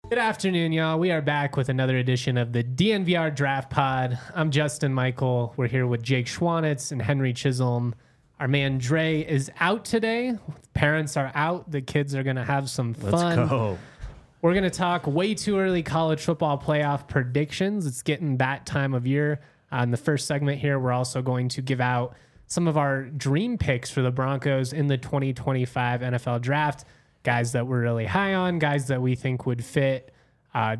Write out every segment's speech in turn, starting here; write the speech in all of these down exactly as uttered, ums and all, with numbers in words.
Good afternoon, y'all. We are back with another edition of the D N V R Draft Pod. I'm Justin Michael. We're here with Jake Schwanitz and Henry Chisholm. Our man Dre is out today. Parents are out. The kids are going to have some fun. Let's go. We're going to talk way too early college football playoff predictions. It's getting that time of year. Uh, in the first segment here, we're also going to give out some of our dream picks for the Broncos in the twenty twenty-five N F L Draft. Guys that we're really high on, guys that we think would fit uh,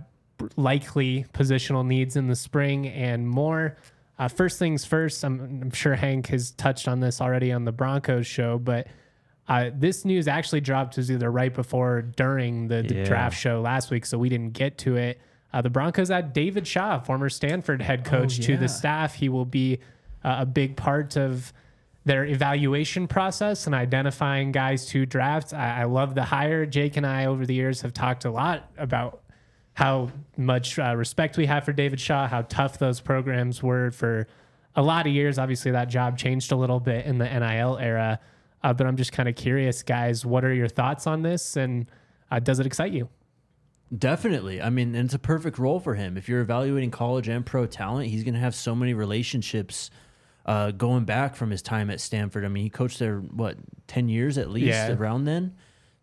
likely positional needs in the spring and more. Uh, first things first, I'm, I'm sure Hank has touched on this already on the Broncos show, but uh, this news actually dropped was either right before or during the, the Yeah. draft show last week, so we didn't get to it. Uh, the Broncos add David Shaw, former Stanford head coach, Oh, to yeah. the staff. He will be uh, a big part of their evaluation process and identifying guys to draft. I, I love the hire. Jake and I over the years have talked a lot about how much uh, respect we have for David Shaw, how tough those programs were for a lot of years. Obviously, that job changed a little bit in the N I L era, uh, but I'm just kind of curious, guys, what are your thoughts on this, and uh, does it excite you? Definitely. I mean, and it's a perfect role for him. If you're evaluating college and pro talent, he's going to have so many relationships uh, going back from his time at Stanford. I mean, he coached there, what, ten years at least, Yeah. around then?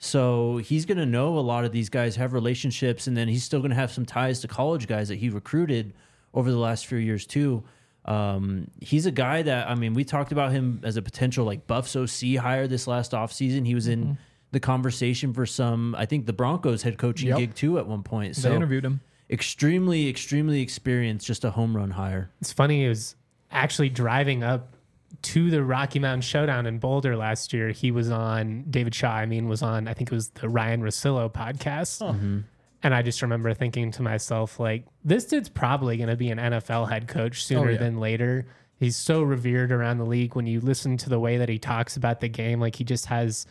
So he's going to know a lot of these guys, have relationships, and then he's still going to have some ties to college guys that he recruited over the last few years too. Um, he's a guy that, I mean, we talked about him as a potential like Buffs O C hire this last offseason. He was in mm-hmm. the conversation for some, I think the Broncos head coaching Yep. gig too at one point. They So interviewed him. extremely, extremely experienced, just a home run hire. It's funny, it was actually driving up to the Rocky Mountain Showdown in Boulder last year. He was on, David Shaw, I mean, was on, I think it was the Ryan Russillo podcast. Oh. Mm-hmm. And I just remember thinking to myself, like, this dude's probably going to be an N F L head coach sooner Oh, yeah. than later. He's so revered around the league. When you listen to the way that he talks about the game, like, he just has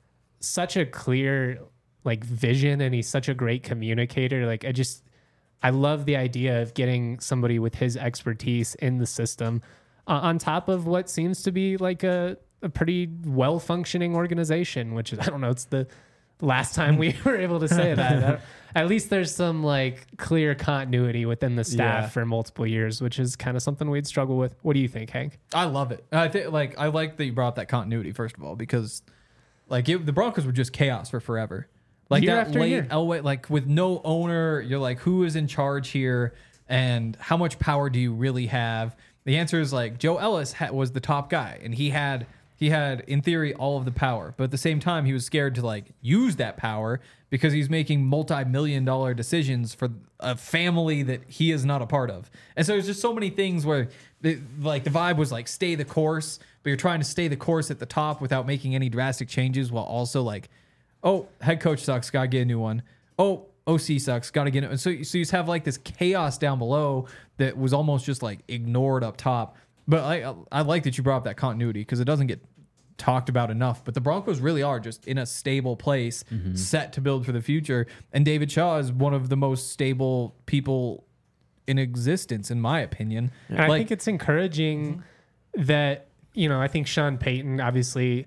such a clear, like, vision, and he's such a great communicator. Like, I just, I love the idea of getting somebody with his expertise in the system uh, on top of what seems to be like a, a pretty well-functioning organization, which is, I don't know, it's the last time we were able to say that. At least there's some like clear continuity within the staff Yeah. for multiple years, which is kind of something we'd struggle with. What do you think, Hank? I love it. I think like I like that you brought up that continuity first of all, because like it, the Broncos were just chaos for forever. Like Year that after late year. Elway, like with no owner, you're like, who is in charge here, and how much power do you really have? The answer is like Joe Ellis ha- was the top guy, and he had he had in theory all of the power, but at the same time he was scared to like use that power because he's making multi-million dollar decisions for a family that he is not a part of. And so there's just so many things where the, like the vibe was like stay the course, but you're trying to stay the course at the top without making any drastic changes, while also like, oh, head coach sucks, gotta get a new one. Oh, O C sucks, gotta get it. And so, so you just have like this chaos down below that was almost just like ignored up top. But I I like that you brought up that continuity because it doesn't get talked about enough. But the Broncos really are just in a stable place, mm-hmm. set to build for the future. And David Shaw is one of the most stable people in existence, in my opinion. And like, I think it's encouraging that, you know, I think Sean Payton obviously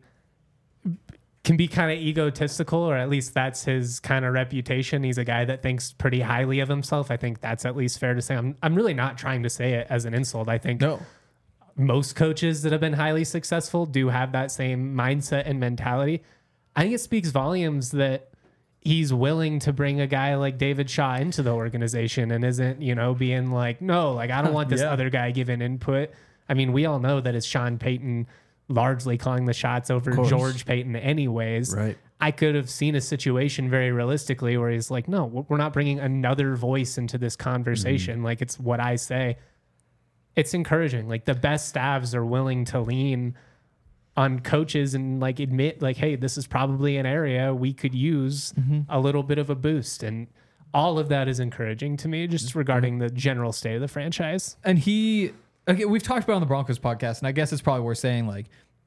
can be kind of egotistical, or at least that's his kind of reputation. He's a guy that thinks pretty highly of himself. I think that's at least fair to say. I'm I'm really not trying to say it as an insult. I think no. most coaches that have been highly successful do have that same mindset and mentality. I think it speaks volumes that he's willing to bring a guy like David Shaw into the organization and isn't, you know, being like, no, like, I don't want this Yeah. other guy giving input. I mean, we all know that it's Sean Payton largely calling the shots over George Payton anyways. Right. I could have seen a situation very realistically where he's like, no, we're not bringing another voice into this conversation. Mm-hmm. Like, it's what I say. It's encouraging. Like, the best staffs are willing to lean on coaches and like admit like, hey, this is probably an area we could use mm-hmm. a little bit of a boost. And all of that is encouraging to me, just regarding the general state of the franchise. And he, okay, we've talked about it on the Broncos podcast, and I guess it's probably worth saying, like,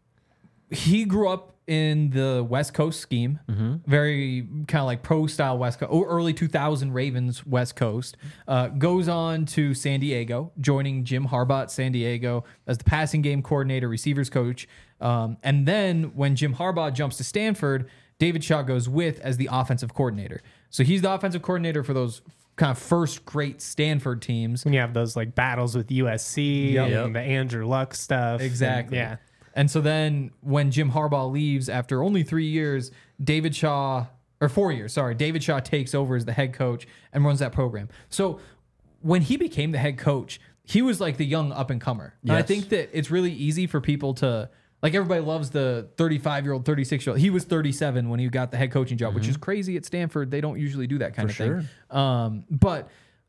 he grew up in the West Coast scheme, mm-hmm. very kind of like pro style West Coast, or early two thousand Ravens West Coast. Uh, goes on to San Diego, joining Jim Harbaugh at San Diego as the passing game coordinator, receivers coach. Um, and then when Jim Harbaugh jumps to Stanford, David Shaw goes with as the offensive coordinator. So he's the offensive coordinator for those kind of first great Stanford teams. When you have those like battles with U S C Yep. and Yep. the Andrew Luck stuff. Exactly. And, yeah. And so then when Jim Harbaugh leaves after only three years, David Shaw, or four years, sorry, David Shaw takes over as the head coach and runs that program. So when he became the head coach, he was like the young up and comer. And I Yes. think that it's really easy for people to, like everybody loves the thirty-five year old, thirty-six year old. He was thirty-seven when he got the head coaching job, which is crazy at Stanford. They don't usually do that kind For of sure. thing. Um, but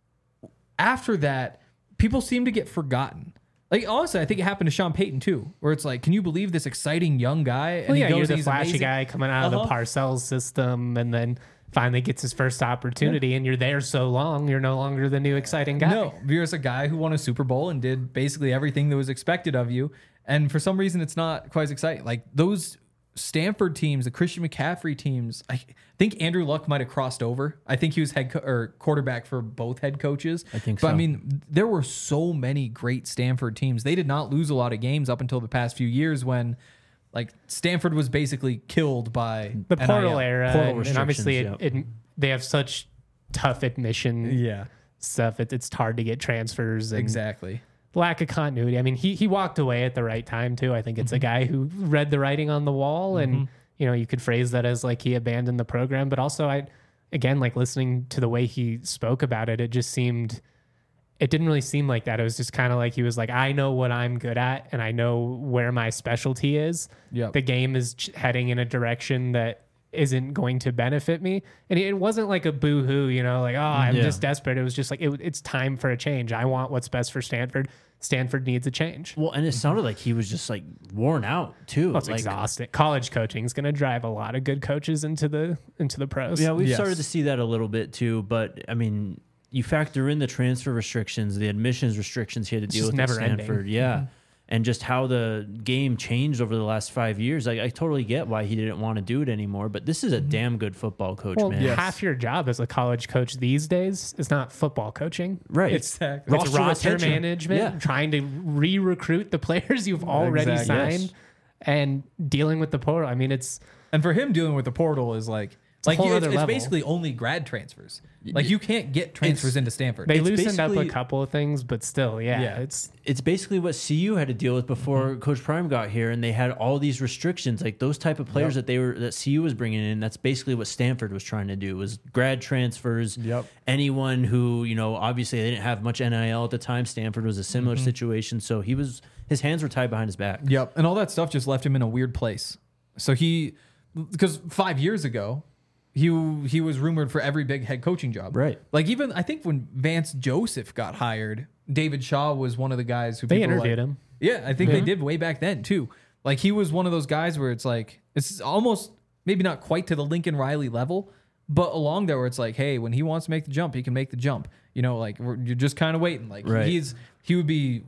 after that, people seem to get forgotten. Like honestly, I think it happened to Sean Payton too, where it's like, can you believe this exciting young guy? And Well, yeah, he goes, you're the he's flashy amazing. guy coming out of the Uh-huh. Parcells system and then finally gets his first opportunity and you're there so long, you're no longer the new exciting guy. No, you're just a guy who won a Super Bowl and did basically everything that was expected of you. And for some reason, it's not quite as exciting. Like those Stanford teams, the Christian McCaffrey teams, I think Andrew Luck might have crossed over. I think he was head co- or quarterback for both head coaches. I think But I so. mean, there were so many great Stanford teams. They did not lose a lot of games up until the past few years when like Stanford was basically killed by The portal N I L. era, Portal and, and obviously it, restrictions, it, they have such tough admission Yeah, stuff. It, it's hard to get transfers and exactly. lack of continuity. I mean, he he walked away at the right time too. I think it's a guy who read the writing on the wall, and you know you could phrase that as like he abandoned the program. But also, I again like listening to the way he spoke about it, it just seemed. It didn't really seem like that. It was just kind of like he was like, I know what I'm good at and I know where my specialty is. Yep. The game is ch- heading in a direction that isn't going to benefit me. And it wasn't like a boo-hoo, you know, like, oh, I'm Yeah. just desperate. It was just like, it, it's time for a change. I want what's best for Stanford. Stanford needs a change. Well, and it sounded like he was just like worn out too. Well, it's like, exhausting. College coaching is going to drive a lot of good coaches into the into the pros. Yeah, we've Yes. started to see that a little bit too. But I mean, you factor in the transfer restrictions, the admissions restrictions he had to deal just with at never ending. Stanford. Yeah. And just how the game changed over the last five years. Like, I totally get why he didn't want to do it anymore. But this is a damn good football coach, Well, man. Yes. half your job as a college coach these days is not football coaching. Right. It's, Exactly. it's Roster roster retention. management, Yeah. trying to re-recruit the players you've already Exactly. signed Yes. and dealing with the portal. I mean, it's And for him, dealing with the portal is like, a like whole you- it's, other it's level. basically only grad transfers. Like you can't get transfers into Stanford. they It's loosened up a basically- couple of things, but still, yeah, Yeah. it's It's basically what C U had to deal with before Mm-hmm. Coach Prime got here, and they had all these restrictions, like those type of players that they were that C U was bringing in. That's basically what Stanford was trying to do: was grad transfers. Yep. Anyone who you know, obviously they didn't have much N I L at the time. Stanford was a similar Mm-hmm. situation, so he was his hands were tied behind his back. Yep. And all that stuff just left him in a weird place. So he, because five years ago, he he was rumored for every big head coaching job. Right. Like even I think when Vance Joseph got hired, David Shaw was one of the guys who they people were interviewed like, him. Yeah, I think they did way back then too. Like he was one of those guys where it's like it's almost maybe not quite to the Lincoln Riley level, but along there where it's like, hey, when he wants to make the jump, he can make the jump. You know, like we're, you're just kind of waiting. Like Right. he's he would be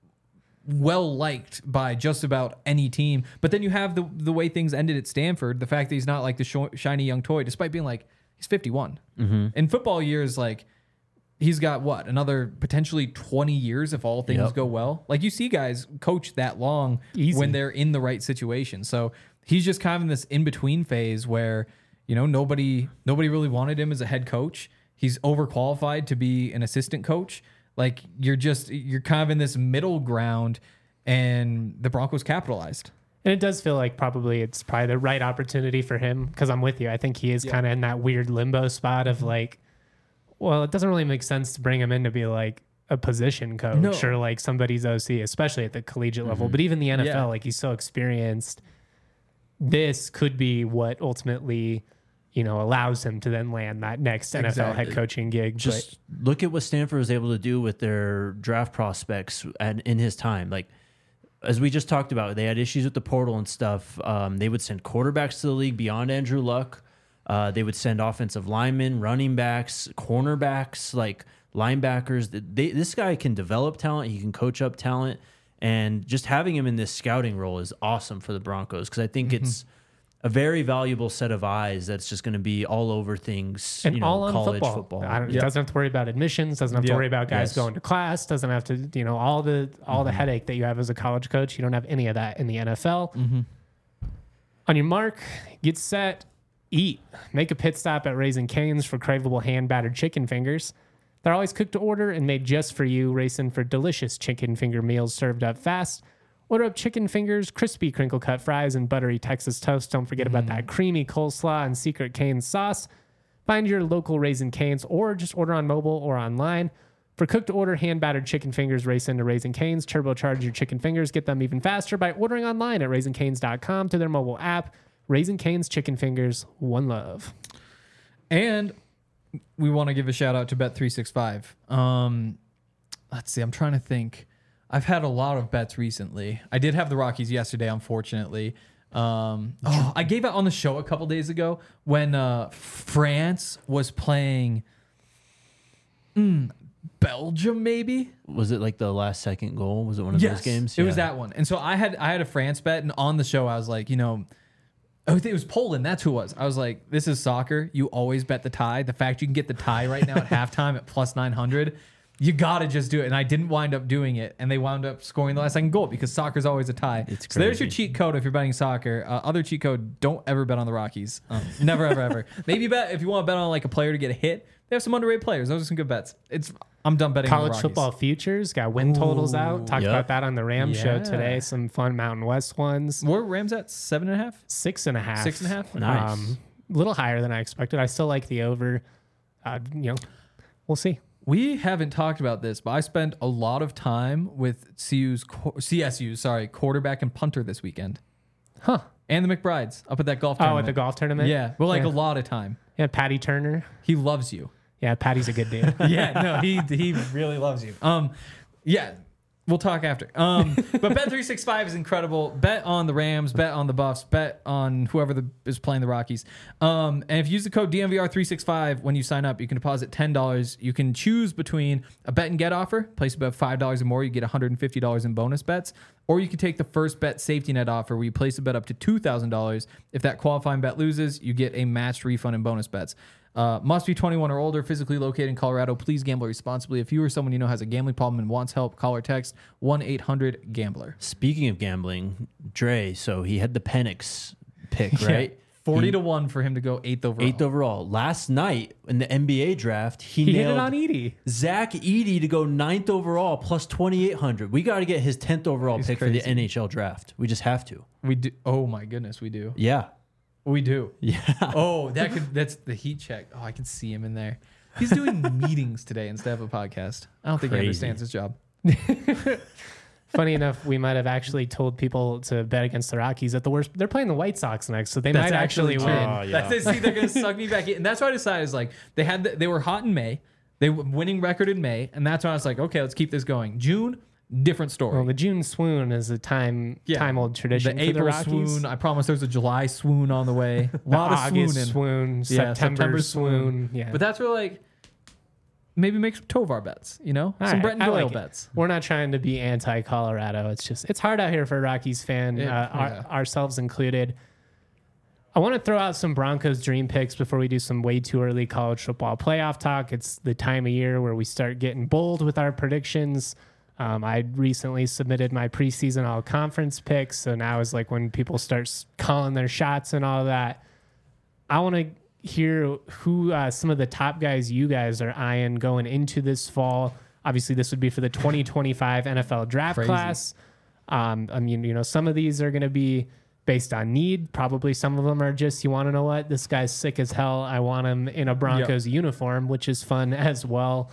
well liked by just about any team. But then you have the the way things ended at Stanford, the fact that he's not like the sh- shiny young toy, despite being like he's fifty-one. Mm-hmm. In football years, like he's got what another potentially twenty years if all things Yep. go well. Like you see guys coach that long Easy. when they're in the right situation. So he's just kind of in this in between phase where you know nobody nobody really wanted him as a head coach. He's overqualified to be an assistant coach. Like you're just you're kind of in this middle ground, and the Broncos capitalized. And it does feel like probably it's probably the right opportunity for him because I'm with you. I think he is kind of in that weird limbo spot of like, well, it doesn't really make sense to bring him in to be like a position coach No. or like somebody's O C, especially at the collegiate level. But even the N F L, Yeah. like he's so experienced. This could be what ultimately, you know, allows him to then land that next N F L head Exactly. coaching gig. Just look at what Stanford was able to do with their draft prospects and in his time. Like, as we just talked about, they had issues with the portal and stuff. Um, they would send quarterbacks to the league beyond Andrew Luck. Uh, they would send offensive linemen, running backs, cornerbacks, like linebackers. They, this guy can develop talent. He can coach up talent. And just having him in this scouting role is awesome for the Broncos because I think Mm-hmm. it's a very valuable set of eyes that's just going to be all over things, and you know, all on college football. football. I don't, Yep. Doesn't have to worry about admissions. Doesn't have to Yep. worry about guys Yes. going to class. Doesn't have to, you know, all the all the headache that you have as a college coach. You don't have any of that in the N F L. On your mark, get set. Eat. Make a pit stop at Raising Cane's for craveable hand-battered chicken fingers. They're always cooked to order and made just for you, racing for delicious chicken finger meals served up fast. Order up chicken fingers, crispy crinkle-cut fries, and buttery Texas toast. Don't forget about that creamy coleslaw and secret Cane's sauce. Find your local Raising Cane's or just order on mobile or online. For cooked-to-order hand-battered chicken fingers, race into Raising Cane's. Turbocharge your chicken fingers. Get them even faster by ordering online at raising canes dot com to their mobile app. Raising Cane's chicken fingers, one love. And we want to give a shout out to Bet three sixty-five. Um, let's see. I'm trying to think. I've had a lot of bets recently. I did have the Rockies yesterday, unfortunately. Um, oh, I gave out on the show a couple days ago when uh, France was playing mm, Belgium, maybe. Was it like the last second goal? Was it one of Yes, those games? it was that one. And so I had I had a France bet, and on the show I was like, you know, I think it was Poland. That's who it was. I was like, this is soccer. You always bet the tie. The fact you can get the tie right now at halftime at plus nine hundred, you got to just do it. And I didn't wind up doing it. And they wound up scoring the last second goal because soccer's always a tie. It's so there's your crazy. cheat code if you're betting soccer. Uh, other cheat code, don't ever bet on the Rockies. Um, never, ever, ever. Maybe bet if you want to bet on like a player to get a hit. They have some underrated players. Those are some good bets. It's I'm done betting on the College Rockies. football futures, got win totals out. Talked Yep. about that on the Rams show Yeah. today. Some fun Mountain West ones. Where Rams at? Seven and a half? Six and a half. Six and a half? Nice. Um, a little higher than I expected. I still like the over. Uh, you know, we'll see. We haven't talked about this, but I spent a lot of time with C U's qu- C S U, sorry, quarterback and punter this weekend, Huh. and the McBrides up at that golf Oh, tournament. at the golf tournament? Yeah, but like Yeah. a lot of time. Yeah, Patty Turner. He loves you. Yeah, Patty's a good dude. Yeah, no, he he really loves you. Um, yeah, we'll talk after. Um, but Bet three sixty-five is incredible. Bet on the Rams, bet on the Buffs, bet on whoever the, is playing the Rockies. Um, and if you use the code D M V R three sixty-five when you sign up, you can deposit ten dollars. You can choose between a bet and get offer, place about five dollars or more, you get one hundred fifty dollars in bonus bets. Or you can take the first bet safety net offer where you place a bet up to two thousand dollars. If that qualifying bet loses, you get a matched refund in bonus bets. Uh, must be twenty-one or older, physically located in Colorado. Please gamble responsibly. If you or someone you know has a gambling problem and wants help, call or text one eight hundred gambler. Speaking of gambling, Dre, so he had the Penix pick, right? forty He- to one for him to go eighth overall. Eighth overall. Last night in the N B A draft, he, He hit nailed it on Edie. Zach Edey to go ninth overall plus twenty-eight hundred. We got to get his tenth overall He's pick for crazy. the N H L draft. We just have to. We do. Oh my goodness, we do. Yeah. We do. Yeah. Oh, that could. That's the heat check. Oh, I can see him in there. He's doing meetings today instead of a podcast. I don't think he Crazy. understands his job. Funny enough, we might have actually told people to bet against the Rockies at the worst. They're playing the White Sox next, so they That's might actually, true. win. Oh, yeah. That's see, they're gonna suck me back in, and that's why I decided is like they had the, they were hot in May, they were winning record in May, and that's why I was like, okay, let's keep this going. June, different story. Well, the June swoon is a time Yeah. time old tradition the for April the Rockies. swoon. I promise there's a July swoon on the way. A The lot of August swooning. swoon, Yeah, September, September swoon. Yeah, But that's where like maybe make some Tovar bets, you know, All some right, Brett and I Doyle like it. bets. We're not trying to be anti-Colorado. It's just it's hard out here for a Rockies fan, It- uh, our- yeah. ourselves included. I want to throw out some Broncos dream picks before we do some way too early college football playoff talk. It's the time of year where we start getting bold with our predictions. Um, I recently submitted my preseason all conference picks, so now is like when people start s- calling their shots and all that. I want to hear who uh, some of the top guys you guys are eyeing going into this fall. Obviously, this would be for the twenty twenty-five N F L draft Crazy. class. Um, I mean, you know, some of these are going to be based on need. Probably some of them are just, you want to know what? This guy's sick as hell. I want him in a Broncos uniform, which is fun as well.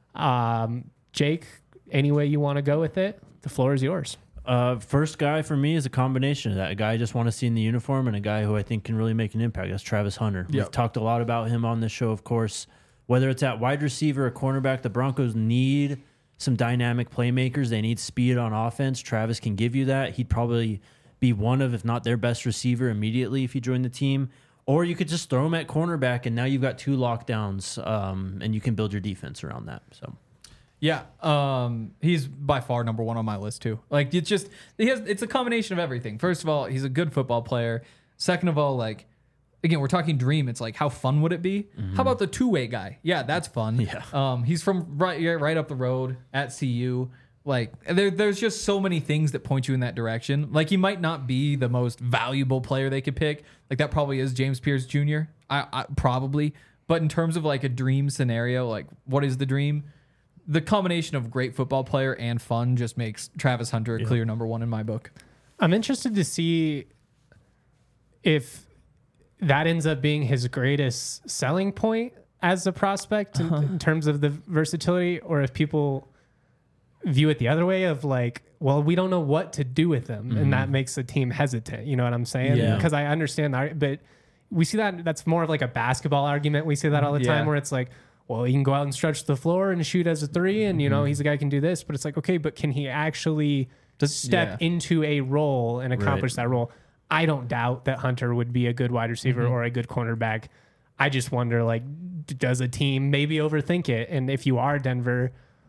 Um, Jake, any way you want to go with it, the floor is yours. Uh, first guy for me is a combination of that. A guy I just want to see in the uniform and a guy who I think can really make an impact. That's Travis Hunter. Yep. We've talked a lot about him on this show, of course. Whether it's at wide receiver or cornerback, the Broncos need some dynamic playmakers. They need speed on offense. Travis can give you that. He'd probably be one of, if not their best receiver immediately if he joined the team. Or you could just throw him at cornerback, and now you've got two lockdowns, um, and you can build your defense around that. So. Yeah, um, he's by far number one on my list too. Like it's just he has it's a combination of everything. First of all, he's a good football player. Second of all, like again, we're talking dream. It's like how fun would it be? How about the two way guy? Yeah, that's fun. Yeah. Um, he's from right yeah, right up the road at C U. Like there, there's just so many things that point you in that direction. Like he might not be the most valuable player they could pick. Like that probably is James Pierce Junior I, I probably, but in terms of like a dream scenario, like what is the dream? The combination of great football player and fun just makes Travis Hunter a Yeah. clear number one in my book. I'm interested to see if that ends up being his greatest selling point as a prospect in, in terms of the versatility, or if people view it the other way of like, well, we don't know what to do with them, mm-hmm. and that makes the team hesitant. You know what I'm saying? Yeah. Because I understand that, but we see that that's more of like a basketball argument. We see that all the Yeah. time where it's like, well, he can go out and stretch the floor and shoot as a three, and you know, mm-hmm. he's a guy who can do this, but it's like, okay, but can he actually just step yeah. into a role and accomplish Right. that role? I don't doubt that Hunter would be a good wide receiver Mm-hmm. or a good cornerback. I just wonder, like, d- does a team maybe overthink it? And if you are Denver,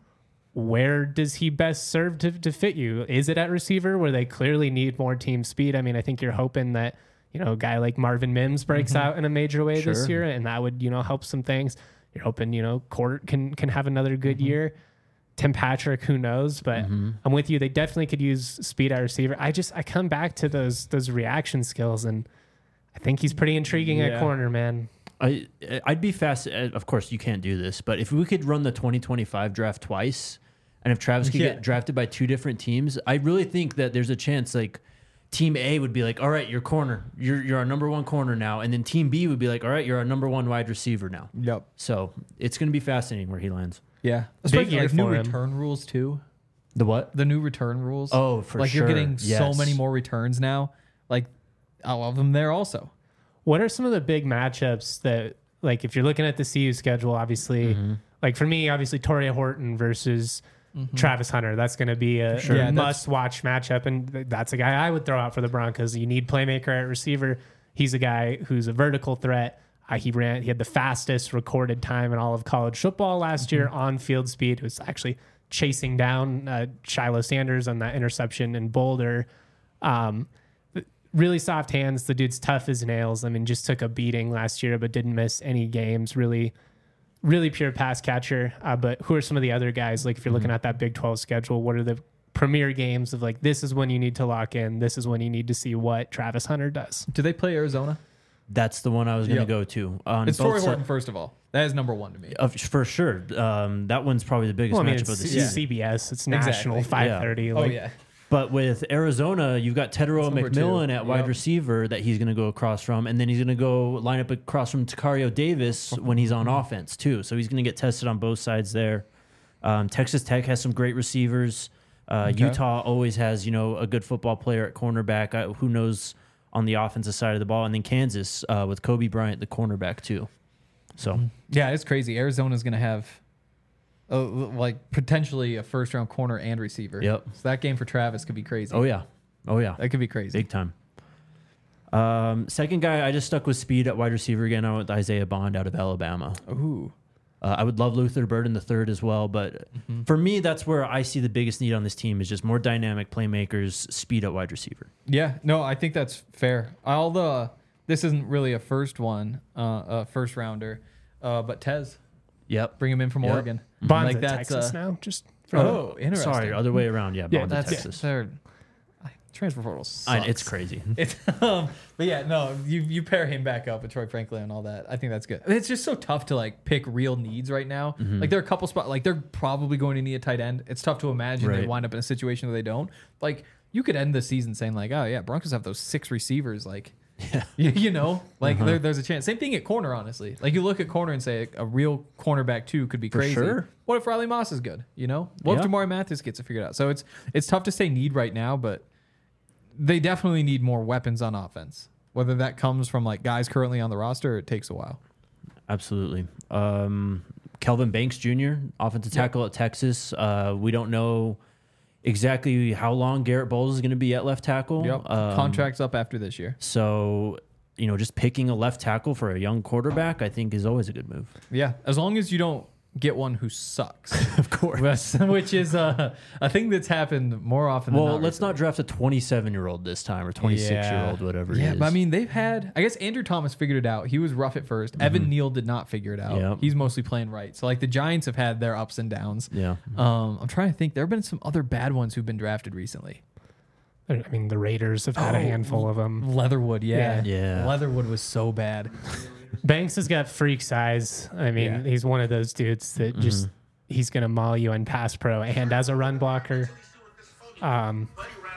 where does he best serve to, to fit you? Is it at receiver where they clearly need more team speed? I mean, I think you're hoping that, you know, a guy like Marvin Mims breaks Mm-hmm. out in a major way this Sure. year, and that would, you know, help some things. You're hoping, you know, Court can can have another good Mm-hmm. year. Tim Patrick, who knows? But Mm-hmm. I'm with you. They definitely could use speed at receiver. I just I come back to those those reaction skills, and I think he's pretty intriguing Yeah. at corner, man. I I'd be fast. Of course, you can't do this, but if we could run the twenty twenty-five draft twice, and if Travis could Yeah. get drafted by two different teams, I really think that there's a chance like Team A would be like, all right, you're corner, you're you're our number one corner now, and then Team B would be like, all right, you're our number one wide receiver now. Yep. So it's going to be fascinating where he lands. Yeah. Big Especially year like new for him. return rules too. The what? The new return rules. Oh, for like sure. you're getting so Yes. many more returns now. Like I love them there also. What are some of the big matchups that, like, if you're looking at the C U schedule, obviously, Mm-hmm. like for me, obviously, Torrey Horton versus Travis Hunter, that's going to be a, Sure. a Yeah, that's- must-watch matchup, and th- that's a guy I would throw out for the Broncos. You need playmaker at receiver. He's a guy who's a vertical threat. Uh, he ran. He had the fastest recorded time in all of college football last year on field speed. It was actually chasing down uh, Shiloh Sanders on that interception in Boulder. Um, really soft hands. The dude's tough as nails. I mean, just took a beating last year, but didn't miss any games. Really, really pure pass catcher. Uh, but who are some of the other guys? Like if you're looking at that Big twelve schedule, what are the premier games of like, this is when you need to lock in. This is when you need to see what Travis Hunter does. Do they play Arizona? That's the one I was going to Yep. go to. On It's both Torrey si- Horton, first of all. That is number one to me. Of, for sure. Um, that one's probably the biggest Well, I mean, matchup it's of the C- season. C B S. It's Exactly. national, five thirty. Oh Like, yeah. But with Arizona, you've got Tedero number McMillan two. at wide Yep. receiver that he's going to go across from, and then he's going to go line up across from Takario Davis when he's on offense too. So he's going to get tested on both sides there. Um, Texas Tech has some great receivers. Uh, Okay. Utah always has, you know, a good football player at cornerback. Uh, who knows on the offensive side of the ball, and then Kansas uh, with Kobe Bryant, the cornerback too. So Yeah, it's crazy. Arizona's going to have uh, like potentially a first round corner and receiver. Yep. So that game for Travis could be crazy. oh yeah, oh yeah, That could be crazy. big time. Um, second guy, I just stuck with speed at wide receiver again. I went with Isaiah Bond out of Alabama. Ooh. Uh, I would love Luther Burden the third as well, but Mm-hmm. for me, that's where I see the biggest need on this team is just more dynamic playmakers, speed at wide receiver. Yeah, no, I think that's fair. All the this isn't really a first one, uh, a first rounder, uh, but Tez, Yep. bring him in from Yep. Oregon. Bond's Like at that's, Texas uh, now. Just for Oh, interesting. Sorry, other way around. Yeah, Yeah, Bond to that's Texas. third. Transfer portal sucks. I, it's crazy. It's um, but yeah, no, you you pair him back up with Troy Franklin and all that. I think that's good. It's just so tough to like pick real needs right now. Mm-hmm. Like there are a couple spots, like they're probably going to need a tight end. It's tough to imagine they Right. wind up in a situation where they don't. Like you could end the season saying like, oh yeah, Broncos have those six receivers. Like, Yeah. you, you know, like Uh-huh. there, there's a chance. Same thing at corner, honestly. Like you look at corner and say a real cornerback too could be For crazy. sure. What if Riley Moss is good? You know, what Yeah. if Jamari Mathis gets it figured out? So it's it's tough to say need right now, but they definitely need more weapons on offense. Whether that comes from like guys currently on the roster, or it takes a while. Absolutely. Um, Kelvin Banks Junior, offensive Yep. tackle at Texas. Uh, we don't know exactly how long Garrett Bowles is going to be at left tackle. Yep. Um, Contract's up after this year. So, you know, just picking a left tackle for a young quarterback, I think, is always a good move. Yeah. As long as you don't get one who sucks. Of course. Which is uh, a thing that's happened more often than Well, not. let's not draft a twenty-seven-year-old this time or twenty-six-year-old, whatever Yeah, it is. but I mean, they've had. I guess Andrew Thomas figured it out. He was rough at 1st Evan Neal did not figure it out. Yep. He's mostly playing right. So like the Giants have had their ups and downs. yeah. Um, I'm trying to think. There have been some other bad ones who've been drafted recently. I mean, the Raiders have had a Oh. handful of them. Leatherwood, yeah, Yeah. Yeah. Leatherwood was so bad. Banks has got freak size. I mean, Yeah. he's one of those dudes that just he's gonna maul you in pass pro and as a run blocker. Um,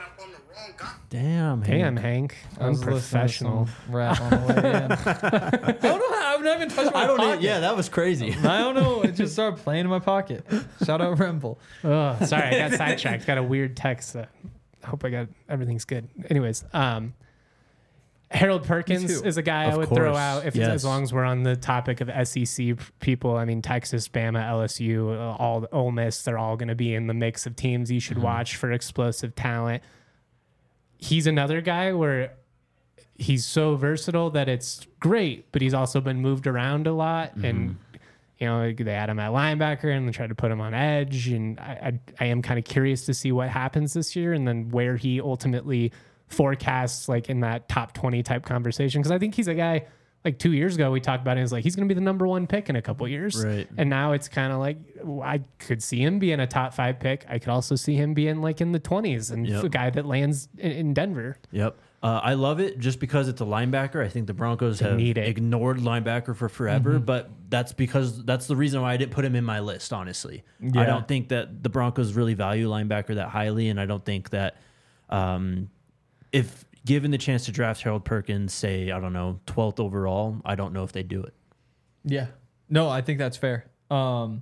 Damn. damn, Hank, I was listening to unprofessional. some Rap on the way in. I don't know how. I've not even touched my I don't pocket. know. Yeah, that was crazy. I don't know. It just started playing in my pocket. Shout out Remble. Oh, sorry, I got sidetracked. Got a weird text. That I hope I got everything's good. Anyways, um, Harold Perkins too. is a guy Of I would throw course, out if yes. as long as we're on the topic of S E C people. I mean, Texas, Bama, L S U, uh, all Ole Miss, they're all going to be in the mix of teams you should Mm-hmm. watch for explosive talent. He's another guy where he's so versatile that it's great, but he's also been moved around a lot Mm-hmm. and. You know, they had him at linebacker and they tried to put him on edge. And I, I, I am kind of curious to see what happens this year and then where he ultimately forecasts, like in that top twenty type conversation. Because I think he's a guy, like two years ago, we talked about it. It's like he's going to be the number one pick in a couple years. Right. And now it's kind of like I could see him being a top five pick. I could also see him being like in the twenties and Yep. a guy that lands in, in Denver. Yep. Uh, I love it just because it's a linebacker. I think the Broncos have need it. ignored linebacker for forever, but that's because that's the reason why I didn't put him in my list, honestly. Yeah. I don't think that the Broncos really value linebacker that highly, and I don't think that um, if given the chance to draft Harold Perkins, say, I don't know, twelfth overall, I don't know if they do it. Yeah. No, I think that's fair. Um,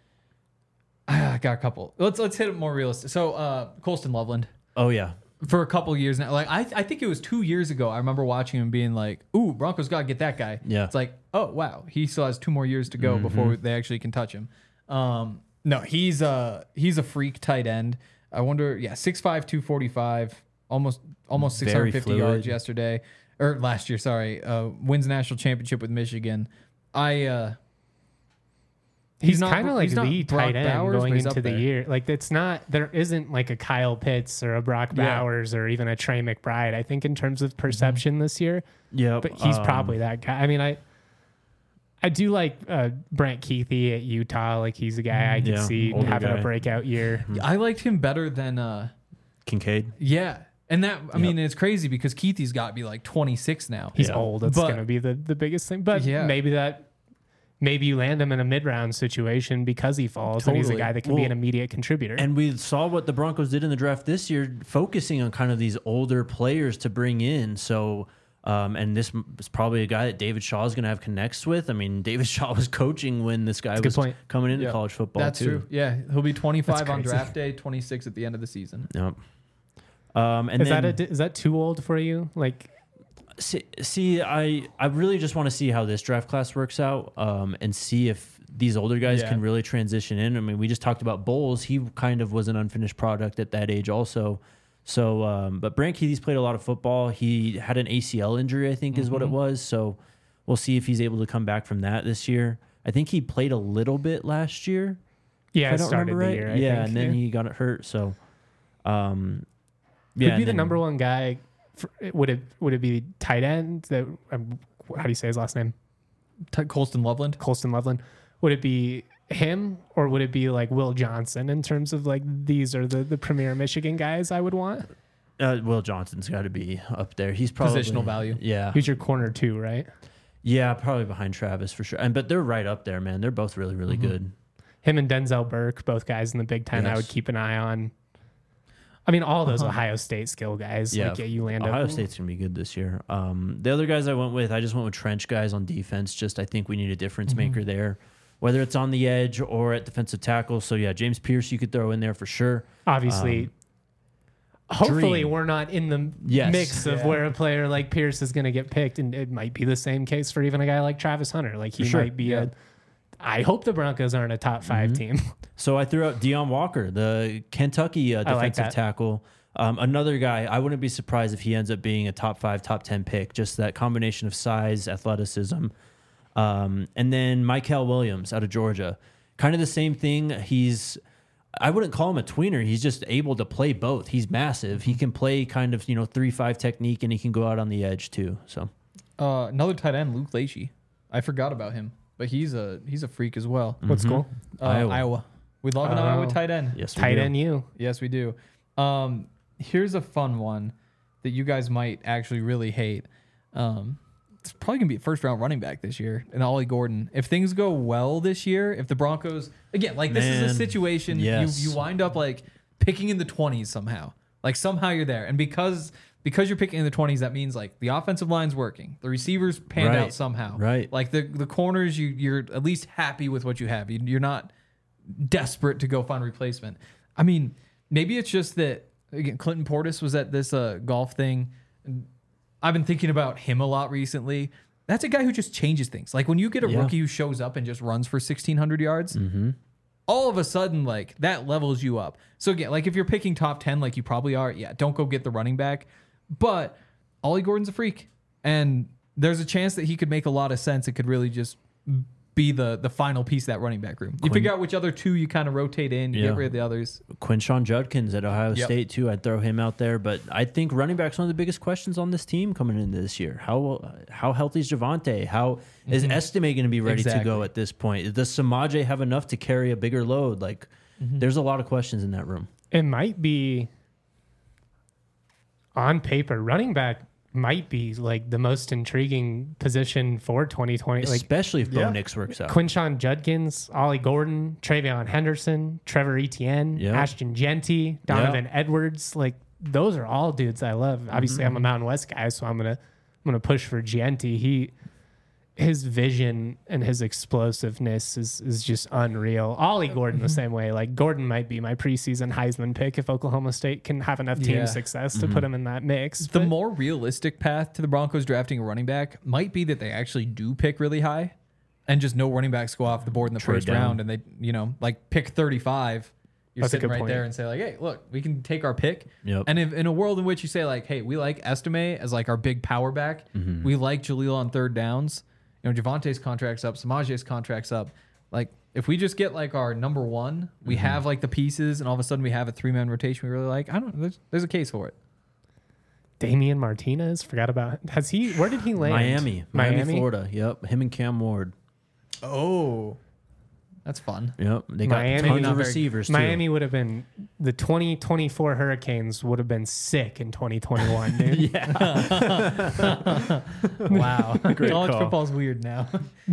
I got a couple. Let's let's hit it more realistic. So, uh, Colston Loveland. Oh, yeah. For a couple years now, like I, I think it was two years ago. I remember watching him being like, "Ooh, Broncos gotta get that guy." Yeah. it's like, oh wow, he still has two more years to go before they actually can touch him. Um, no, he's a he's a freak tight end. I wonder, yeah, six five, two forty-five, almost almost six Very hundred fifty fluid. yards yesterday or last year. Sorry, uh, wins national championship with Michigan. I uh, He's, not- kind of like he's not the Brock tight end Bowers, going but he's into up the there. year. Like it's not there isn't like a Kyle Pitts or a Brock Yeah. Bowers or even a Trey McBride. I think in terms of perception this year, Yeah. but he's um, probably that guy. I mean, I I do like uh, Brent Keithy at Utah. Like he's a guy I could Yeah, see older having guy. a breakout year. I liked him better than uh, Kincaid. yeah. And that, I mean, it's crazy because Keithy's got to be like twenty-six now. He's Yeah. old. That's But- going to be the, the biggest thing. But Yeah. maybe that maybe you land him in a mid round situation because he falls and he's a Totally. guy that can be Well, an immediate contributor. And we saw what the Broncos did in the draft this year, focusing on kind of these older players to bring in. So, um, and this is probably a guy that David Shaw is going to have connects with. I mean, David Shaw was coaching when this guy a good was point. coming into Yeah. college football. That's too. true. Yeah, he'll be twenty-five That's on crazy. draft day, twenty-six at the end of the season. Yep. Um, and is then, that a, is that too old for you? Like see, see, I I really just want to see how this draft class works out, um, and see if these older guys Yeah. can really transition in. I mean, we just talked about Bowles; he kind of was an unfinished product at that age, also. So, um, but Brant Keithy's played a lot of football. He had an A C L injury, I think, is what it Mm-hmm. was. So, we'll see if he's able to come back from that this year. I think he played a little bit last year. yeah, if I it don't started remember the right. year. I yeah, think, and then yeah. he got it hurt. So, um, Who'd yeah, be and the then- number one guy? For, would it would it be tight end? That um, how do you say his last name? T- Colston Loveland. Colston Loveland. Would it be him or would it be like Will Johnson in terms of like these are the the premier Michigan guys I would want? Uh, Will Johnson's got to be up there. He's probably Positional value. Yeah, Who's your corner two, right? yeah, probably behind Travis for sure. And but they're right up there, man. They're both really, really Mm-hmm. good. Him and Denzel Burke, both guys in the Big Ten. I would Yes. keep an eye on. I mean, all those Uh-huh. Ohio State skill guys. Yeah, like, yeah, you land Ohio up. State's gonna be good this year. Um, the other guys I went with, I just went with trench guys on defense. Just I think we need a difference Mm-hmm. maker there, whether it's on the edge or at defensive tackle. So yeah, James Pierce you could throw in there for sure. Obviously, Um, hopefully dream. we're not in the Yes. mix of Yeah. where a player like Pierce is going to get picked, and it might be the same case for even a guy like Travis Hunter. Like he For sure. might be Yeah. a. I hope the Broncos aren't a top 5 team. So I threw out Deion Walker, the Kentucky uh, I like defensive that. tackle. Um, another guy, I wouldn't be surprised if he ends up being a top five, top ten pick. Just that combination of size, athleticism. Um, and then Michael Williams out of Georgia. kind of the same thing. He's, I wouldn't call him a tweener. He's just able to play both. He's massive. He can play kind of, you know, three five technique, and he can go out on the edge too. So Uh, another tight end, Luke Leachy. I forgot about him, but he's a he's a freak as well. What school? Uh, Iowa. Iowa. We love an Oh. Iowa tight end. yes, we Tight do. end you. Yes, we do. Um, here's a fun one that you guys might actually really hate. Um, it's probably gonna be a first round running back this year, and Ollie Gordon. If things go well this year, if the Broncos again, like this is Man, a situation yes. you you wind up like picking in the twenties somehow. Like somehow you're there, and because because you're picking in the twenties, that means like the offensive line's working, the receivers panned Right. out somehow, Right. Like the the corners, you you're at least happy with what you have. You, you're not desperate to go find a replacement. I mean, maybe it's just that again, Clinton Portis was at this uh, golf thing. I've been thinking about him a lot recently. That's a guy who just changes things. Like when you get a Yeah. rookie who shows up and just runs for sixteen hundred yards, Mm-hmm. all of a sudden, like that levels you up. So again, like if you're picking top ten, like you probably are, yeah, don't go get the running back. But Ollie Gordon's a freak, and there's a chance that he could make a lot of sense. It could really just be the the final piece of that running back room. You Quinn- figure out which other two you kind of rotate in, you Yeah. get rid of the others. Quinshawn Judkins at Ohio Yep. State too. I'd throw him out there, but I think running back's one of the biggest questions on this team coming into this year. How how healthy is Javante? How is Estime going to be ready to Exactly. go at this point? Does Samaje have enough to carry a bigger load? Like, there's a lot of questions in that room. It might be on paper, running back might be like the most intriguing position for twenty twenty. Like Especially if Bo yeah. Nix works out. Quinshawn Judkins, Ollie Gordon, Travion Henderson, Trevor Etienne, Yeah. Ashton Genty, Donovan Edwards. Like those are all dudes I love. Obviously, I'm a Mountain West guy, so I'm gonna I'm gonna push for Genty. He his vision and his explosiveness is is just unreal. Ollie Gordon the same way. Like Gordon might be my preseason Heisman pick if Oklahoma State can have enough team Yeah. success to put him in that mix. The But- more realistic path to the Broncos drafting a running back might be that they actually do pick really high and just no running backs go off the board in the Trade first down. round, and they, you know, like pick thirty-five. You're That's a sitting good right point. there and say like, hey, look, we can take our pick. Yep. And if, in a world in which you say like, hey, we like Estime as like our big power back, Mm-hmm. we like Jaleel on third downs. You know, Javante's contract's up, Samaje's contract's up. Like, if we just get like our number one, we Mm-hmm. have like the pieces, and all of a sudden we have a three man rotation we really like. I don't. There's, there's a case for it. Damian Martinez, forgot about. Has he? Where did he land? Miami, Miami, Miami, Florida. Yep, him and Cam Ward. Oh, that's fun. Yep, they got Miami, tons not of very- receivers too. Miami would have been the twenty twenty-four Hurricanes would have been sick in twenty twenty-one, dude. Wow. Great College call. football's weird now.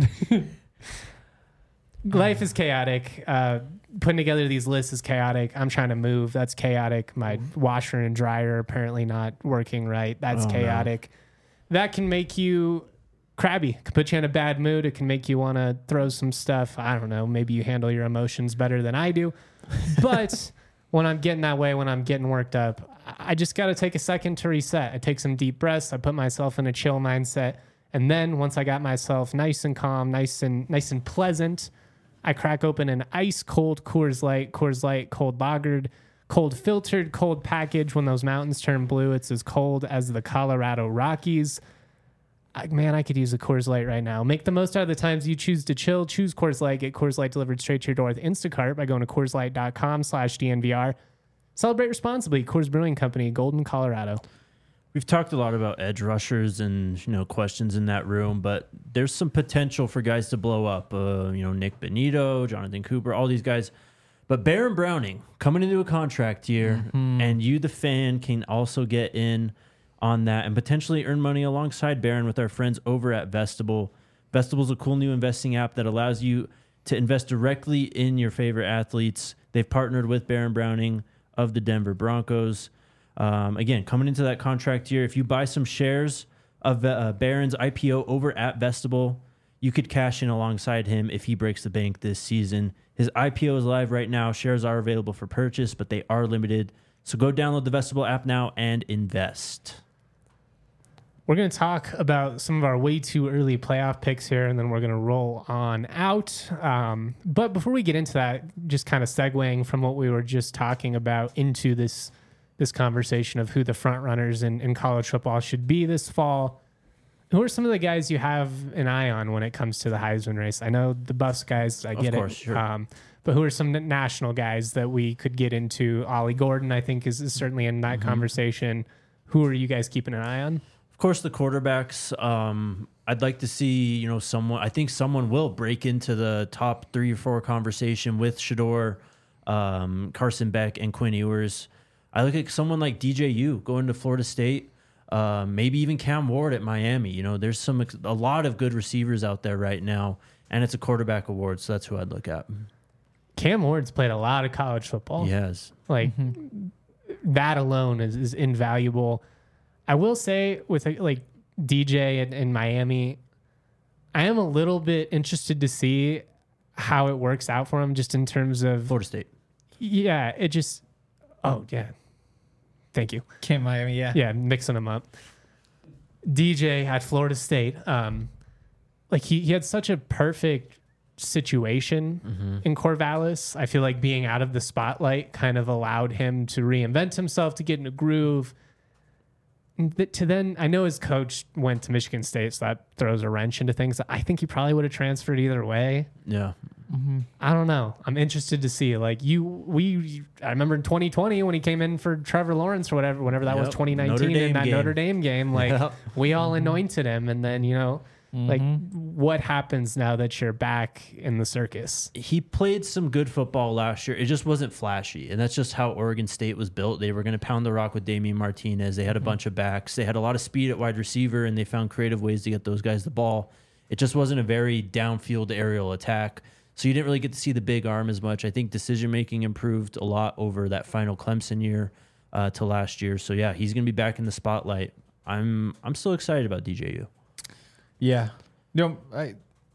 Life is chaotic. Uh, putting together these lists is chaotic. I'm trying to move. That's chaotic. My washer and dryer apparently not working right. That's Oh, no. chaotic. That can make you crabby. Can put you in a bad mood. It can make you want to throw some stuff. I don't know. Maybe you handle your emotions better than I do. But when I'm getting that way, when I'm getting worked up, I just got to take a second to reset. I take some deep breaths. I put myself in a chill mindset. And then once I got myself nice and calm, nice and nice and pleasant, I crack open an ice cold Coors Light, Coors Light cold lagered, cold filtered, cold package. When those mountains turn blue, it's as cold as the Colorado Rockies. I, man, I could use a Coors Light right now. Make the most out of the times you choose to chill. Choose Coors Light. Get Coors Light delivered straight to your door with Instacart by going to CoorsLight.com slash DNVR. Celebrate responsibly. Coors Brewing Company, Golden, Colorado. We've talked a lot about edge rushers and, you know, questions in that room, but there's some potential for guys to blow up. Uh, you know, Nick Benito, Jonathan Cooper, all these guys. But Baron Browning coming into a contract year, and you, the fan, can also get in on that and potentially earn money alongside Baron with our friends over at Vestibule. Vestibule is a cool new investing app that allows you to invest directly in your favorite athletes. They've partnered with Baron Browning of the Denver Broncos. Um, again, coming into that contract year, if you buy some shares of uh, Baron's I P O over at Vestibule, you could cash in alongside him if he breaks the bank this season. His I P O is live right now. Shares are available for purchase, but they are limited. So go download the Vestibule app now and invest. We're going to talk about some of our way too early playoff picks here, and then we're going to roll on out. Um, but before we get into that, just kind of segueing from what we were just talking about into this this conversation of who the front runners in, in college football should be this fall. Who are some of the guys you have an eye on when it comes to the Heisman race? I know the Buffs guys, I get course, it. sure. Um, but who are some national guys that we could get into? Ollie Gordon, I think, is, is certainly in that Mm-hmm. conversation. Who are you guys keeping an eye on? Of course, the quarterbacks. Um, I'd like to see, you know, someone. I think someone will break into the top three or four conversation with Shador, um, Carson Beck, and Quinn Ewers. I look at someone like D J U going to Florida State. Uh, maybe even Cam Ward at Miami. You know, there's some a lot of good receivers out there right now, and it's a quarterback award, so that's who I'd look at. Cam Ward's played a lot of college football. Yes, Like that alone is, is invaluable. I will say with like D J in, in Miami, I am a little bit interested to see how it works out for him just in terms of, Florida State. yeah, it just, oh yeah. Thank you. Cam Miami, yeah. Yeah, mixing them up. D J at Florida State, um, like he, he had such a perfect situation Mm-hmm. in Corvallis. I feel like being out of the spotlight kind of allowed him to reinvent himself, to get in a groove. And th- To then, I know his coach went to Michigan State, so that throws a wrench into things. I think he probably would have transferred either way. Yeah. I don't know. I'm interested to see. Like you, we. I remember in twenty twenty when he came in for Trevor Lawrence or whatever, whenever that was Yep. twenty nineteen Notre in Dame that game. Notre Dame game. Like Yep. we all anointed him, and then you know, like what happens now that you're back in the circus? He played some good football last year. It just wasn't flashy. And that's just how Oregon State was built. They were going to pound the rock with Damian Martinez. They had a bunch of backs. They had a lot of speed at wide receiver, and they found creative ways to get those guys the ball. It just wasn't a very downfield aerial attack. So you didn't really get to see the big arm as much. I think decision-making improved a lot over that final Clemson year uh, to last year. So, yeah, he's going to be back in the spotlight. I'm I'm still excited about D J U. Yeah. No, I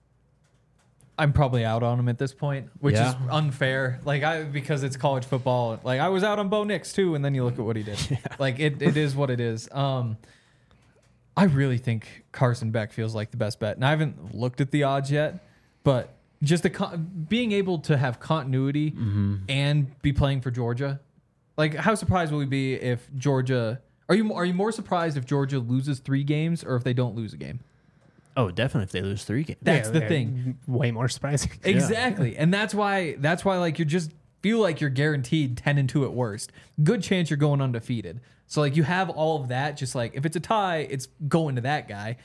I'm probably out on him at this point, which Yeah. is unfair. Like I because it's college football. Like I was out on Bo Nix too, and then you look at what he did. Like it, it is what it is. Um I really think Carson Beck feels like the best bet. And I haven't looked at the odds yet, but just the con- being able to have continuity and be playing for Georgia. Like how surprised will we be if Georgia Are you are you more surprised if Georgia loses three games or if they don't lose a game? Oh, definitely if they lose three games. That's Yeah, the yeah, thing. Way more surprising. Exactly. And that's why that's why like you just feel like you're guaranteed ten and two at worst. Good chance you're going undefeated. So like you have all of that, just like if it's a tie, it's going to that guy.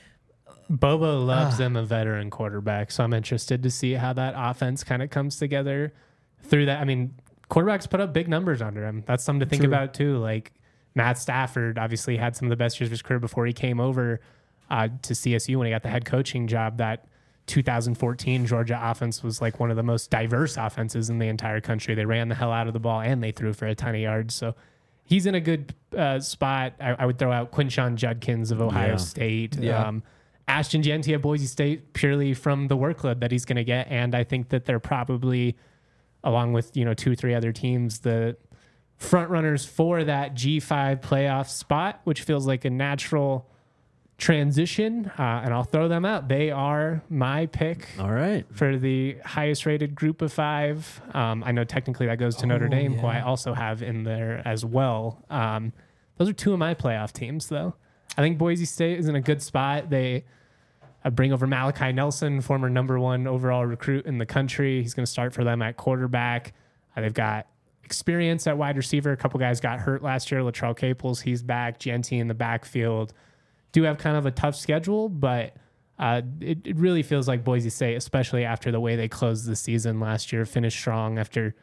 Bobo loves Ah. them a veteran quarterback, so I'm interested to see how that offense kind of comes together through that. I mean, quarterbacks put up big numbers under him. That's something to think True. about too. Like Matt Stafford obviously had some of the best years of his career before he came over uh, to C S U when he got the head coaching job. That two thousand fourteen Georgia offense was like one of the most diverse offenses in the entire country. They ran the hell out of the ball and they threw for a ton of yards. So he's in a good uh, spot. I, I would throw out Quinshon Judkins of Ohio Yeah. State. Yeah. Um, Ashton Genty at Boise State purely from the workload that he's going to get. And I think that they're probably, along with, you know, two or three other teams, the front runners for that G five playoff spot, which feels like a natural transition. Uh, and I'll throw them out. They are my pick All right. for the highest rated group of five. Um, I know technically that goes to Notre Oh, Dame, who I yeah. also have in there as well. Um, those are two of my playoff teams, though. I think Boise State is in a good spot. They uh, bring over Malachi Nelson, former number one overall recruit in the country. He's going to start for them at quarterback. Uh, they've got experience at wide receiver. A couple guys got hurt last year. Latrell Caples, he's back. Genty in the backfield. Do have kind of a tough schedule, but uh, it, it really feels like Boise State, especially after the way they closed the season last year, finished strong after,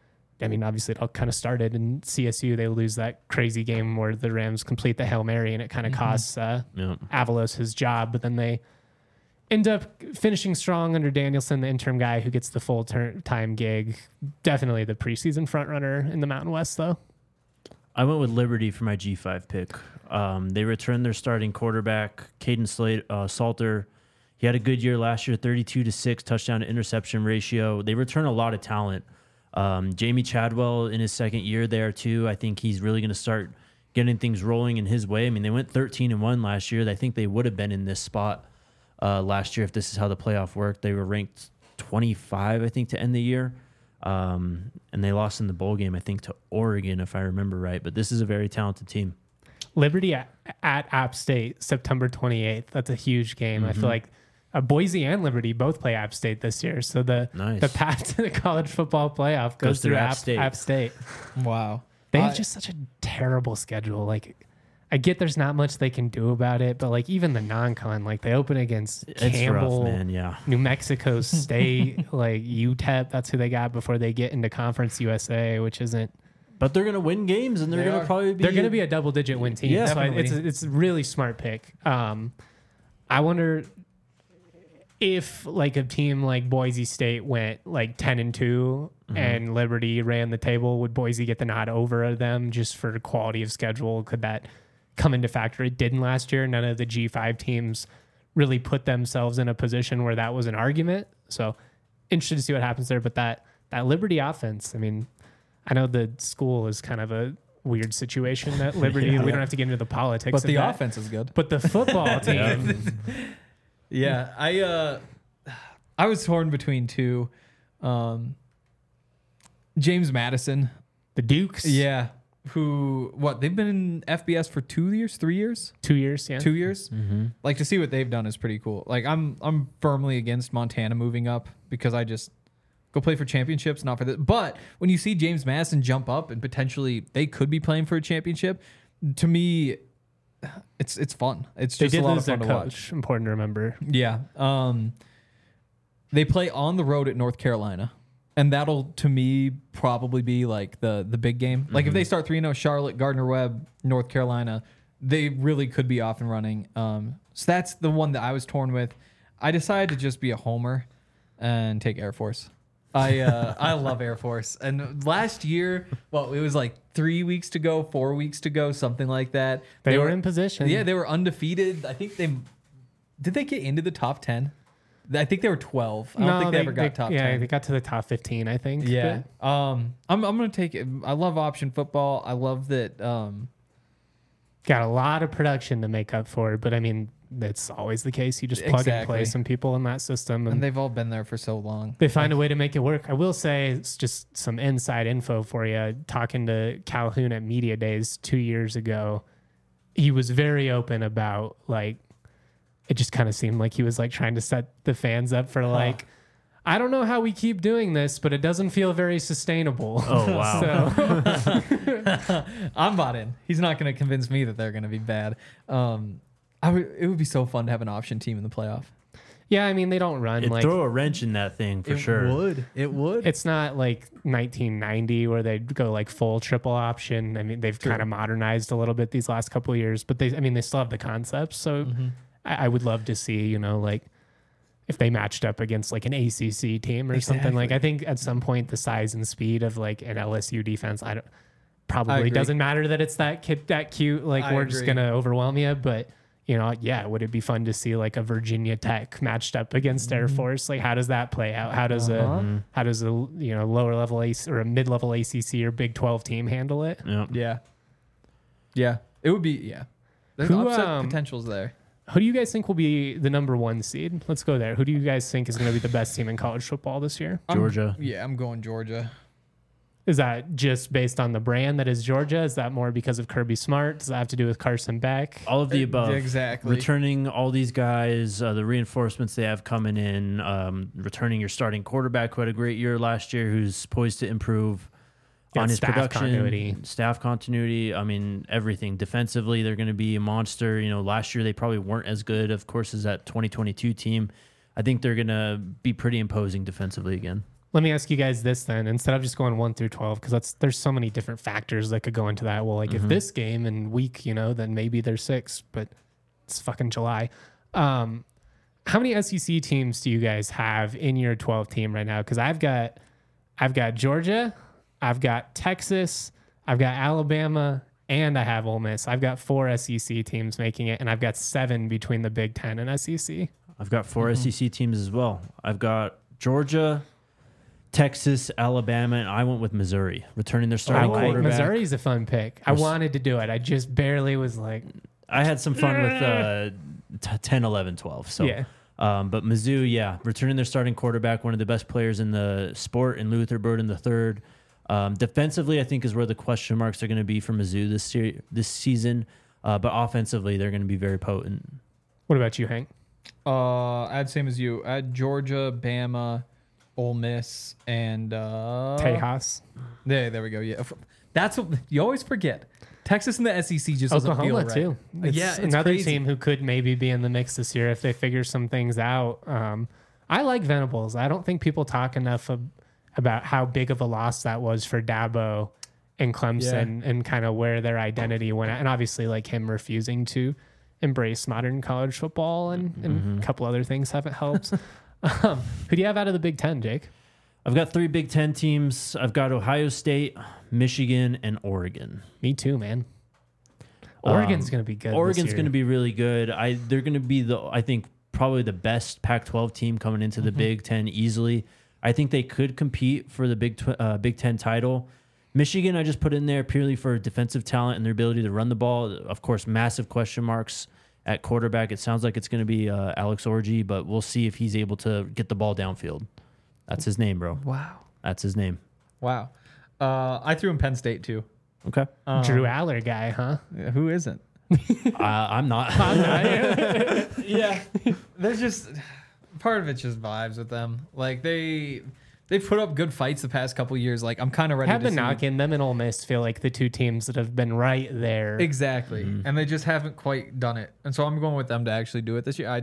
I mean, obviously it all kind of started in C S U. They lose that crazy game where the Rams complete the Hail Mary and it kind of costs uh, Yeah. Avalos his job, but then they end up finishing strong under Danielson, the interim guy who gets the full ter- time gig. Definitely the preseason front runner in the Mountain West, though. I went with Liberty for my G five pick. Um, they returned their starting quarterback, Caden Slate, uh, Salter. He had a good year last year, thirty-two to six touchdown to interception ratio. They return a lot of talent. Um, Jamie Chadwell in his second year there too. I think he's really going to start getting things rolling in his way. I mean, they went thirteen and one last year. I think they would have been in this spot uh, last year if this is how the playoff worked. They were ranked twenty-five, I think, to end the year. Um, and they lost in the bowl game, I think, to Oregon, if I remember right. But this is a very talented team. Liberty at, at App State, September twenty-eighth. That's a huge game. Mm-hmm. I feel like uh, Boise and Liberty both play App State this year. So the Nice. the path to the college football playoff goes, Goes through through App App State. App State. Wow. They have I- just such a terrible schedule. Like, I get there's not much they can do about it, but like even the non-con, like they open against It's Campbell, rough, man. Yeah. New Mexico State, like U T E P. That's who they got before they get into Conference U S A, which isn't. But they're gonna win games, and they're They gonna are. probably be. They're going to be a double-digit win team. Yeah. so I, it's Definitely. it's a really smart pick. Um, I wonder if like a team like Boise State went like ten and two, Mm-hmm. and Liberty ran the table. Would Boise get the nod over them just for quality of schedule? Could that come into factor? It didn't last year. None of the G five teams really put themselves in a position where that was an argument. So interested to see what happens there. But that that Liberty offense, I mean, I know the school is kind of a weird situation at Liberty. Yeah. We don't have to get into the politics. But of the that. offense is good. But the football team, Yeah, I uh, I was torn between two. Um, James Madison, the Dukes, yeah, who what they've been in F B S for two years, three years, two years, yeah. two years. Like to see what they've done is pretty cool. Like I'm I'm firmly against Montana moving up because I just go play for championships, not for this. But when you see James Madison jump up and potentially they could be playing for a championship, to me, it's it's fun. It's They just a did lot lose of their fun to watch. coach. Important to remember. Yeah. Um, they play on the road at North Carolina. And that'll, to me, probably be like the the big game. Like if they start three and oh, Charlotte, Gardner-Webb, North Carolina, they really could be off and running. Um, so that's the one that I was torn with. I decided to just be a homer and take Air Force. I uh, I love Air Force. And last year, well, it was like three weeks to go, four weeks to go, something like that. They, were in position. Yeah, they were undefeated. I think they did they get into the top ten? I think they were twelve. I don't no, think they, ever got top yeah, ten. they got to the top fifteen, I think. Yeah. but Um I'm I'm gonna take it. I love option football. I love that um got a lot of production to make up for it. But I mean, that's always the case. You just plug and play Exactly. some people in that system, and, and they've all been there for so long. they find a way to make it work. I will say it's just some inside info for you. Talking to Calhoun at Media Days two years ago, he was very open about like, it just kind of seemed like he was like trying to set the fans up for like, I don't know how we keep doing this, but it doesn't feel very sustainable. Oh wow. So I'm bought in. He's not gonna convince me that they're gonna be bad. Um I would it would be so fun to have an option team in the playoff. yeah, I mean they don't run It'd like throw a wrench in that thing for sure. would. It would. it's not like nineteen ninety where they go like full triple option. I mean they've kind of modernized a little bit these last couple of years, but they I mean they still have the concepts. So I, I would love to see you know like if they matched up against like an A C C team or something. Like I think at some point the size and speed of like an L S U defense, I don't probably agree. doesn't matter that it's that kid that cute. Like I we're just agree. gonna overwhelm you, but. You know, yeah, would it be fun to see like a Virginia Tech matched up against Air Force? Like, how does that play out? How does Uh-huh. a how does a you know lower level A C or a mid level A C C or Big twelve team handle it? Yeah. Yeah. Yeah. It would be yeah. There's Who, upset um, potentials there. Who do you guys think will be the number one seed? Let's go there. Who do you guys think is going to be the best team in college football this year? I'm- Georgia. yeah, I'm going Georgia. Is that just based on the brand that is Georgia? Is that more because of Kirby Smart? Does that have to do with Carson Beck? All of the above. Exactly. Returning all these guys, uh, the reinforcements they have coming in, um, returning your starting quarterback who had a great year last year, who's poised to improve Yeah, on his staff production, continuity. staff continuity. I mean, everything. Defensively, they're going to be a monster. You know, last year they probably weren't as good, of course, as that twenty twenty-two team. I think they're going to be pretty imposing defensively again. Let me ask you guys this then, instead of just going one through twelve, because that's there's so many different factors that could go into that. Well, like Mm-hmm. if this game and week, you know, then maybe they're six, but it's fucking July. Um, how many S E C teams do you guys have in your twelve team right now? Because I've got, I've got Georgia, I've got Texas, I've got Alabama, and I have Ole Miss. I've got four S E C teams making it, and I've got seven between the Big Ten and S E C. I've got four S E C teams as well. I've got Georgia, Texas, Alabama, and I went with Missouri, returning their I starting like quarterback. Missouri's a fun pick. I Was- wanted to do it. I just barely was like, I had some fun with uh, t- ten, eleven, twelve. So, Yeah. um, but Mizzou, yeah, returning their starting quarterback, one of the best players in the sport, in Luther Burden the third. Um, defensively, I think is where the question marks are going to be for Mizzou this year, this season. Uh, but offensively, they're going to be very potent. What about you, Hank? Uh, I'd same as you. I'd Georgia, Bama, Ole Miss, and uh, Tejas. There, there we go. Yeah, that's what you always forget. Texas and the S E C just doesn't Oklahoma feel right. too. It's yeah, it's another crazy. team who could maybe be in the mix this year if they figure some things out. Um, I like Venables. I don't think people talk enough of, about how big of a loss that was for Dabo and Clemson Yeah. and kind of where their identity went at. And obviously, like him refusing to embrace modern college football and, and Mm-hmm. a couple other things haven't helped. um, who do you have out of the Big Ten, Jake? I've got three Big Ten teams. I've got Ohio State, Michigan, and Oregon. Me too, man. Oregon's Um, going to be good. Oregon's going going to be really good. I they're going to be the I think probably the best Pac twelve team coming into the Mm-hmm. Big Ten easily. I think they could compete for the Big tw- uh, Big Ten title. Michigan, I just put in there purely for defensive talent and their ability to run the ball. Of course, massive question marks at quarterback. It sounds like it's going to be uh, Alex Orji, but we'll see if he's able to get the ball downfield. That's his name, bro. Wow, That's his name. wow. Uh, I threw in Penn State too. Okay. Um, Drew Aller guy, huh? yeah, who isn't? uh, I'm not. Yeah, there's just part of it's just vibes with them. Like they they've put up good fights the past couple years. Like I'm kind of ready Have to been see knocking them and Ole Miss feel like the two teams that have been right there. exactly, Mm-hmm. and they just haven't quite done it. And so I'm going with them to actually do it this year. I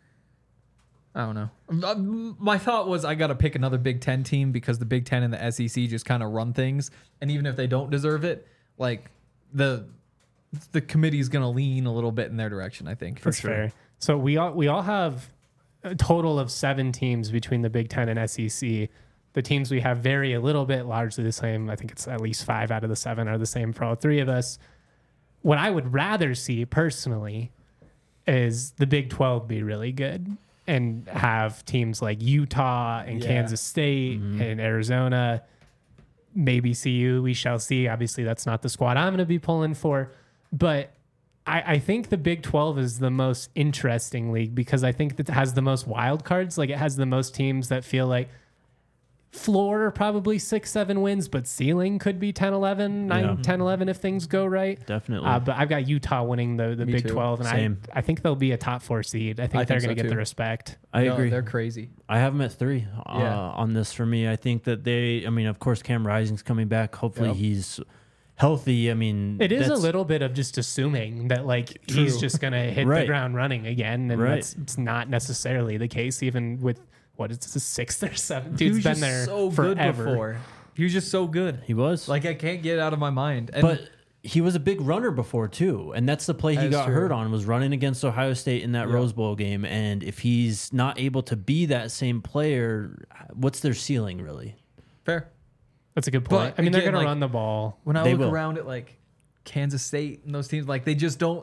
I don't know. Uh, My thought was I got to pick another Big Ten team because the Big Ten and the S E C just kind of run things, and even if they don't deserve it, like the the committee's going to lean a little bit in their direction. I think. That's fair. So we all we all have a total of seven teams between the Big Ten and S E C. The teams we have vary a little bit, largely the same. I think it's at least five out of the seven are the same for all three of us. What I would rather see personally is the Big twelve be really good and have teams like Utah and Yeah. Kansas State and Arizona, maybe C U. We shall see. Obviously, that's not the squad I'm going to be pulling for, but I, I think the Big twelve is the most interesting league because I think that it has the most wild cards. Like it has the most teams that feel like floor probably six, seven wins, but ceiling could be ten, eleven, nine, Yeah. ten, eleven if things go right. Definitely. Uh, but I've got Utah winning the, the Me Big too. twelve, and Same. I I think they'll be a top four seed. I think I they're think going to so get the too. respect. I No, agree. They're crazy. I have them at three uh, Yeah. on this for me. I think that they, I mean, of course, Cam Rising's coming back. Hopefully Yep. he's healthy. I mean, It is a that's- little bit of just assuming that like he's True. just going to hit the Right. ground running again, and Right. that's it's not necessarily the case. Even with what is this, the sixth or seventh? He Dude's was been just there so forever. good before. He was just so good. He was. Like I can't get it out of my mind. And but he was a big runner before too, and that's the play he That's got true. hurt on was running against Ohio State in that Yeah. Rose Bowl game. And if he's not able to be that same player, what's their ceiling really? fair. That's a good point. But I mean, they're again, going to like- run the ball. When I They look will. around at like Kansas State and those teams, like they just don't.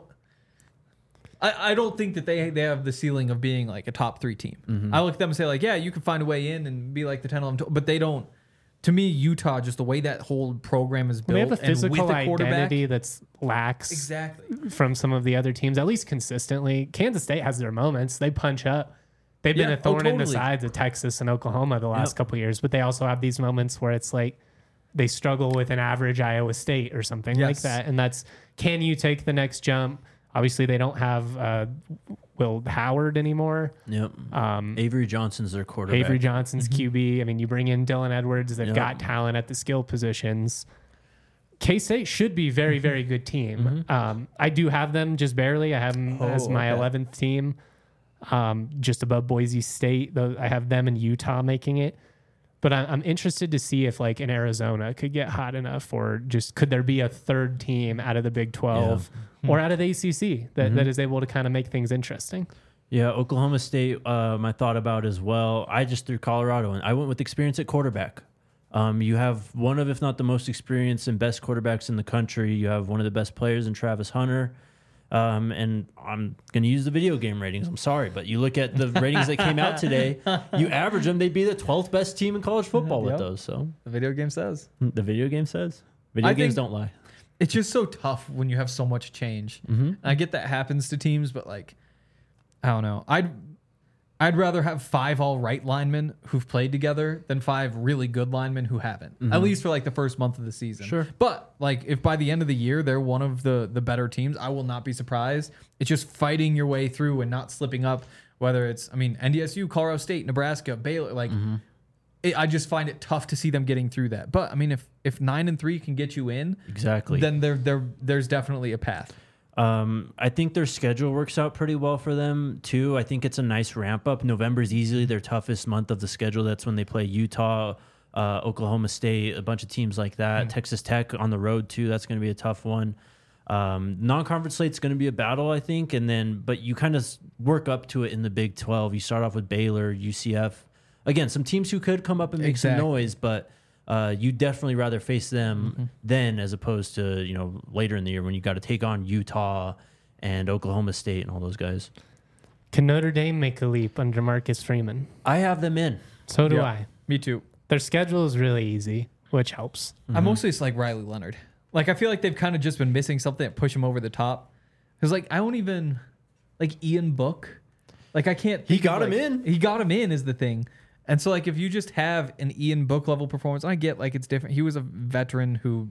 I, I don't think that they they have the ceiling of being like a top three team. Mm-hmm. I look at them and say like, yeah, you can find a way in and be like the ten, eleven, twelve, but they don't. To me, Utah, just the way that whole program is built, They have a and physical with a quarterback, identity that's lax exactly. from some of the other teams, at least consistently. Kansas State has their moments. They punch up. They've been Yeah, a thorn oh, in the totally. sides of Texas and Oklahoma the last Yep. couple of years, but they also have these moments where it's like they struggle with an average Iowa State or something like Yes. that. And that's, can you take the next jump? Obviously, they don't have uh, Will Howard anymore. Yep. Um, Avery Johnson's their quarterback. Avery Johnson's Q B. I mean, you bring in Dylan Edwards. They've Yep. got talent at the skill positions. K-State should be very, very good team. Um, I do have them just barely. I have them as Oh, my okay. eleventh team, um, just above Boise State. Though I have them and Utah making it. But I, I'm interested to see if like in Arizona could get hot enough, or just could there be a third team out of the Big twelve or out of the A C C that, that is able to kind of make things interesting. Yeah, Oklahoma State, um, I thought about as well. I just threw Colorado in. I went with experience at quarterback. Um, you have one of, if not the most experienced and best quarterbacks in the country. You have one of the best players in Travis Hunter. Um, and I'm going to use the video game ratings. I'm sorry, but you look at the ratings that came out today, you average them, they'd be the twelfth best team in college football with Yep. those. So The video game says. the video game says. Video I games think- don't lie. It's just so tough when you have so much change. Mm-hmm. I get that happens to teams, but like, I don't know. I'd I'd rather have five all right linemen who've played together than five really good linemen who haven't. Mm-hmm. At least for like the first month of the season. Sure. But like if by the end of the year they're one of the the better teams, I will not be surprised. It's just fighting your way through and not slipping up. Whether it's, I mean, N D S U, Colorado State, Nebraska, Baylor, like mm-hmm. it, I just find it tough to see them getting through that. But I mean, if if nine and three can get you in, exactly, then there there there's definitely a path. Um, I think their schedule works out pretty well for them too. I think it's a nice ramp up. November is easily their toughest month of the schedule. That's when they play Utah, uh, Oklahoma State, a bunch of teams like that. Mm. Texas Tech on the road too. That's going to be a tough one. Um, non-conference slate's going to be a battle, I think. And then, but you kind of work up to it in the Big twelve. You start off with Baylor, U C F. Again, some teams who could come up and make exactly. some noise, but Uh, you definitely rather face them mm-hmm. then as opposed to, you know, later in the year when you got to take on Utah and Oklahoma State and all those guys. Can Notre Dame make a leap under Marcus Freeman? I have them in. So do yep. I. Me too. Their schedule is really easy, which helps. Mm-hmm. I mostly just like Riley Leonard. Like, I feel like they've kind of just been missing something that push him over the top. Because, like, I don't even, like, Ian Book. Like, I can't. He got of, him like, in. He got him in is the thing. And so, like, if you just have an Ian Book level performance, I get, like, it's different. He was a veteran who,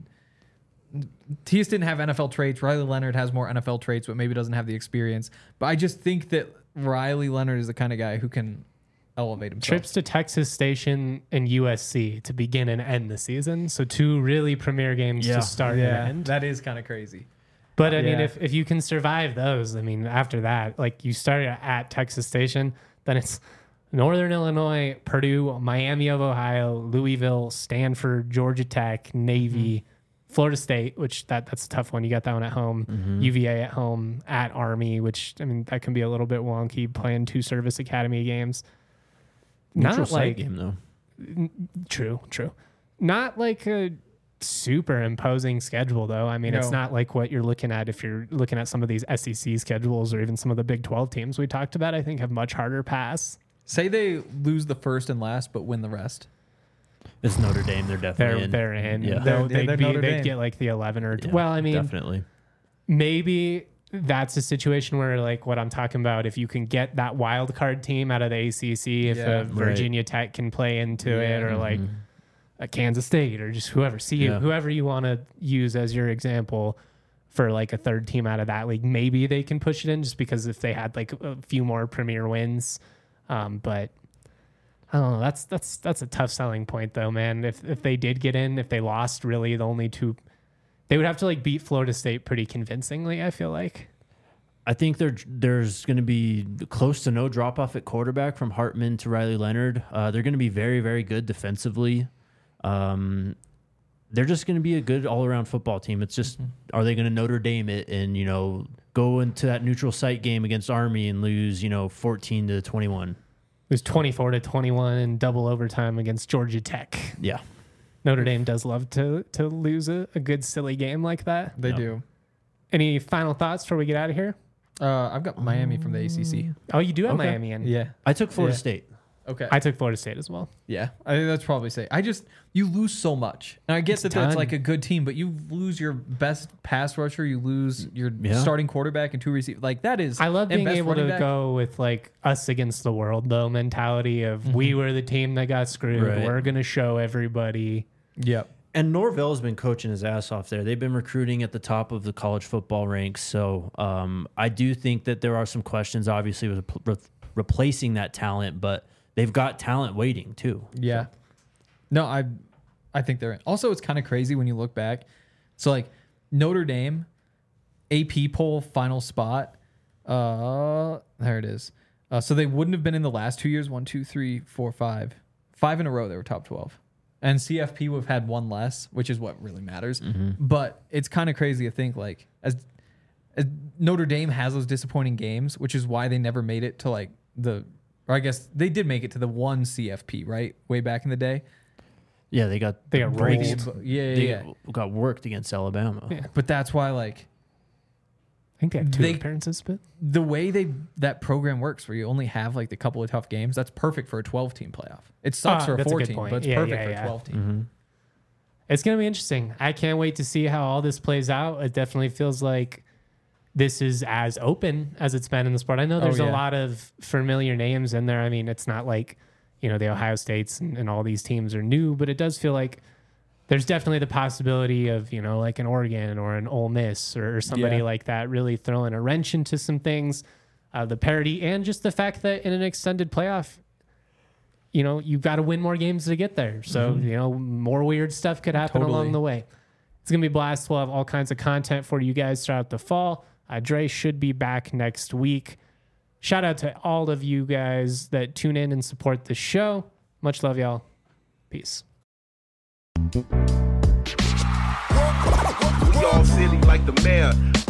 he just didn't have N F L traits. Riley Leonard has more N F L traits, but maybe doesn't have the experience. But I just think that Riley Leonard is the kind of guy who can elevate himself. Trips to Texas Station and U S C to begin and end the season. So two really premier games yeah. to start yeah, and end. That is kind of crazy. But, I yeah. mean, if, if you can survive those, I mean, after that, like, you start at Texas Station, then it's Northern Illinois, Purdue, Miami of Ohio, Louisville, Stanford, Georgia Tech, Navy, mm-hmm. Florida State, which that that's a tough one. You got that one at home. Mm-hmm. U V A at home, at Army, which, I mean, that can be a little bit wonky playing two service academy games. Neutral Not site like game, though. N- true, true. Not like a super imposing schedule, though. I mean, no. It's not like what you're looking at if you're looking at some of these S E C schedules or even some of the Big twelve teams we talked about, I think have much harder paths. Say they lose the first and last, but win the rest. It's Notre Dame. They're definitely they're, in. They're in. Yeah. They're, they'd, they're be, Notre they'd Dame. get like the eleven or... Yeah, well, I mean... Definitely. Maybe that's a situation where, like, what I'm talking about, if you can get that wild card team out of the A C C, if Yeah. a Virginia right. Tech can play into yeah. it, or mm-hmm. like a Kansas State, or just whoever, see yeah. whoever you want to use as your example for like a third team out of that league, maybe they can push it in just because if they had like a few more premier wins. Um, but I don't know. That's that's that's a tough selling point, though, man. If if they did get in, if they lost, really the only two, they would have to like beat Florida State pretty convincingly, I feel like. I think there there's going to be close to no drop off at quarterback from Hartman to Riley Leonard. Uh, they're going to be very very good defensively. Um, they're just going to be a good all around football team. It's just, mm-hmm. are they going to Notre Dame it and, you know, go into that neutral site game against Army and lose, you know, fourteen to twenty-one? It was twenty-four to twenty-one in double overtime against Georgia Tech. Yeah. Notre Dame does love to to lose a, a good silly game like that. They Yep. do. Any final thoughts before we get out of here? Uh, I've got Miami from the A C C. Oh, you do have Okay. Miami in. Yeah. I took Florida Yeah. State. Okay. I took Florida State as well. Yeah, I think that's probably safe. I just, you lose so much. And I guess It's that that's done. like a good team, but you lose your best pass rusher, you lose your Yeah. starting quarterback and two receivers. Like that is, I love and being best able to running back. go with like us against the world though mentality of we were the team that got screwed. Right. We're gonna show everybody. Yep. And Norvell's been coaching his ass off there. They've been recruiting at the top of the college football ranks. So um, I do think that there are some questions, obviously, with re- replacing that talent, but they've got talent waiting too. Yeah. No, I I think they're in. Also, it's kind of crazy when you look back. So like Notre Dame, A P poll final spot. Uh, there it is. Uh, so they wouldn't have been in the last two years. One, two, three, four, five, five in a row. They were top twelve, and C F P would have had one less, which is what really matters. Mm-hmm. But it's kind of crazy to think like as as Notre Dame has those disappointing games, which is why they never made it to like the. Or I guess they did make it to the one C F P, right? Way back in the day. Yeah, they got They got breaks. rolled. Yeah, yeah, They yeah. got worked against Alabama. Yeah. But that's why, like, I think they had two They- appearances, but the way they that program works, where you only have like the couple of tough games, that's perfect for a twelve team playoff. It sucks Ah, for a that's a good fourteen, point. but it's Yeah, perfect yeah, for yeah. a twelve team. Mm-hmm. it's gonna be interesting. I can't wait to see how all this plays out. It definitely feels like this is as open as it's been in the sport. I know there's Oh, yeah. a lot of familiar names in there. I mean, it's not like, you know, the Ohio States and, and all these teams are new, but it does feel like there's definitely the possibility of, you know, like an Oregon or an Ole Miss or, or somebody Yeah. like that really throwing a wrench into some things. Uh, the parity and just the fact that in an extended playoff, you know, you've got to win more games to get there. So, Mm-hmm. you know, more weird stuff could happen Totally. along the way. It's going to be a blast. We'll have all kinds of content for you guys throughout the fall. Uh, Dre should be back next week. Shout out to all of you guys that tune in and support the show. Much love, y'all. Peace. We all silly like the mayor.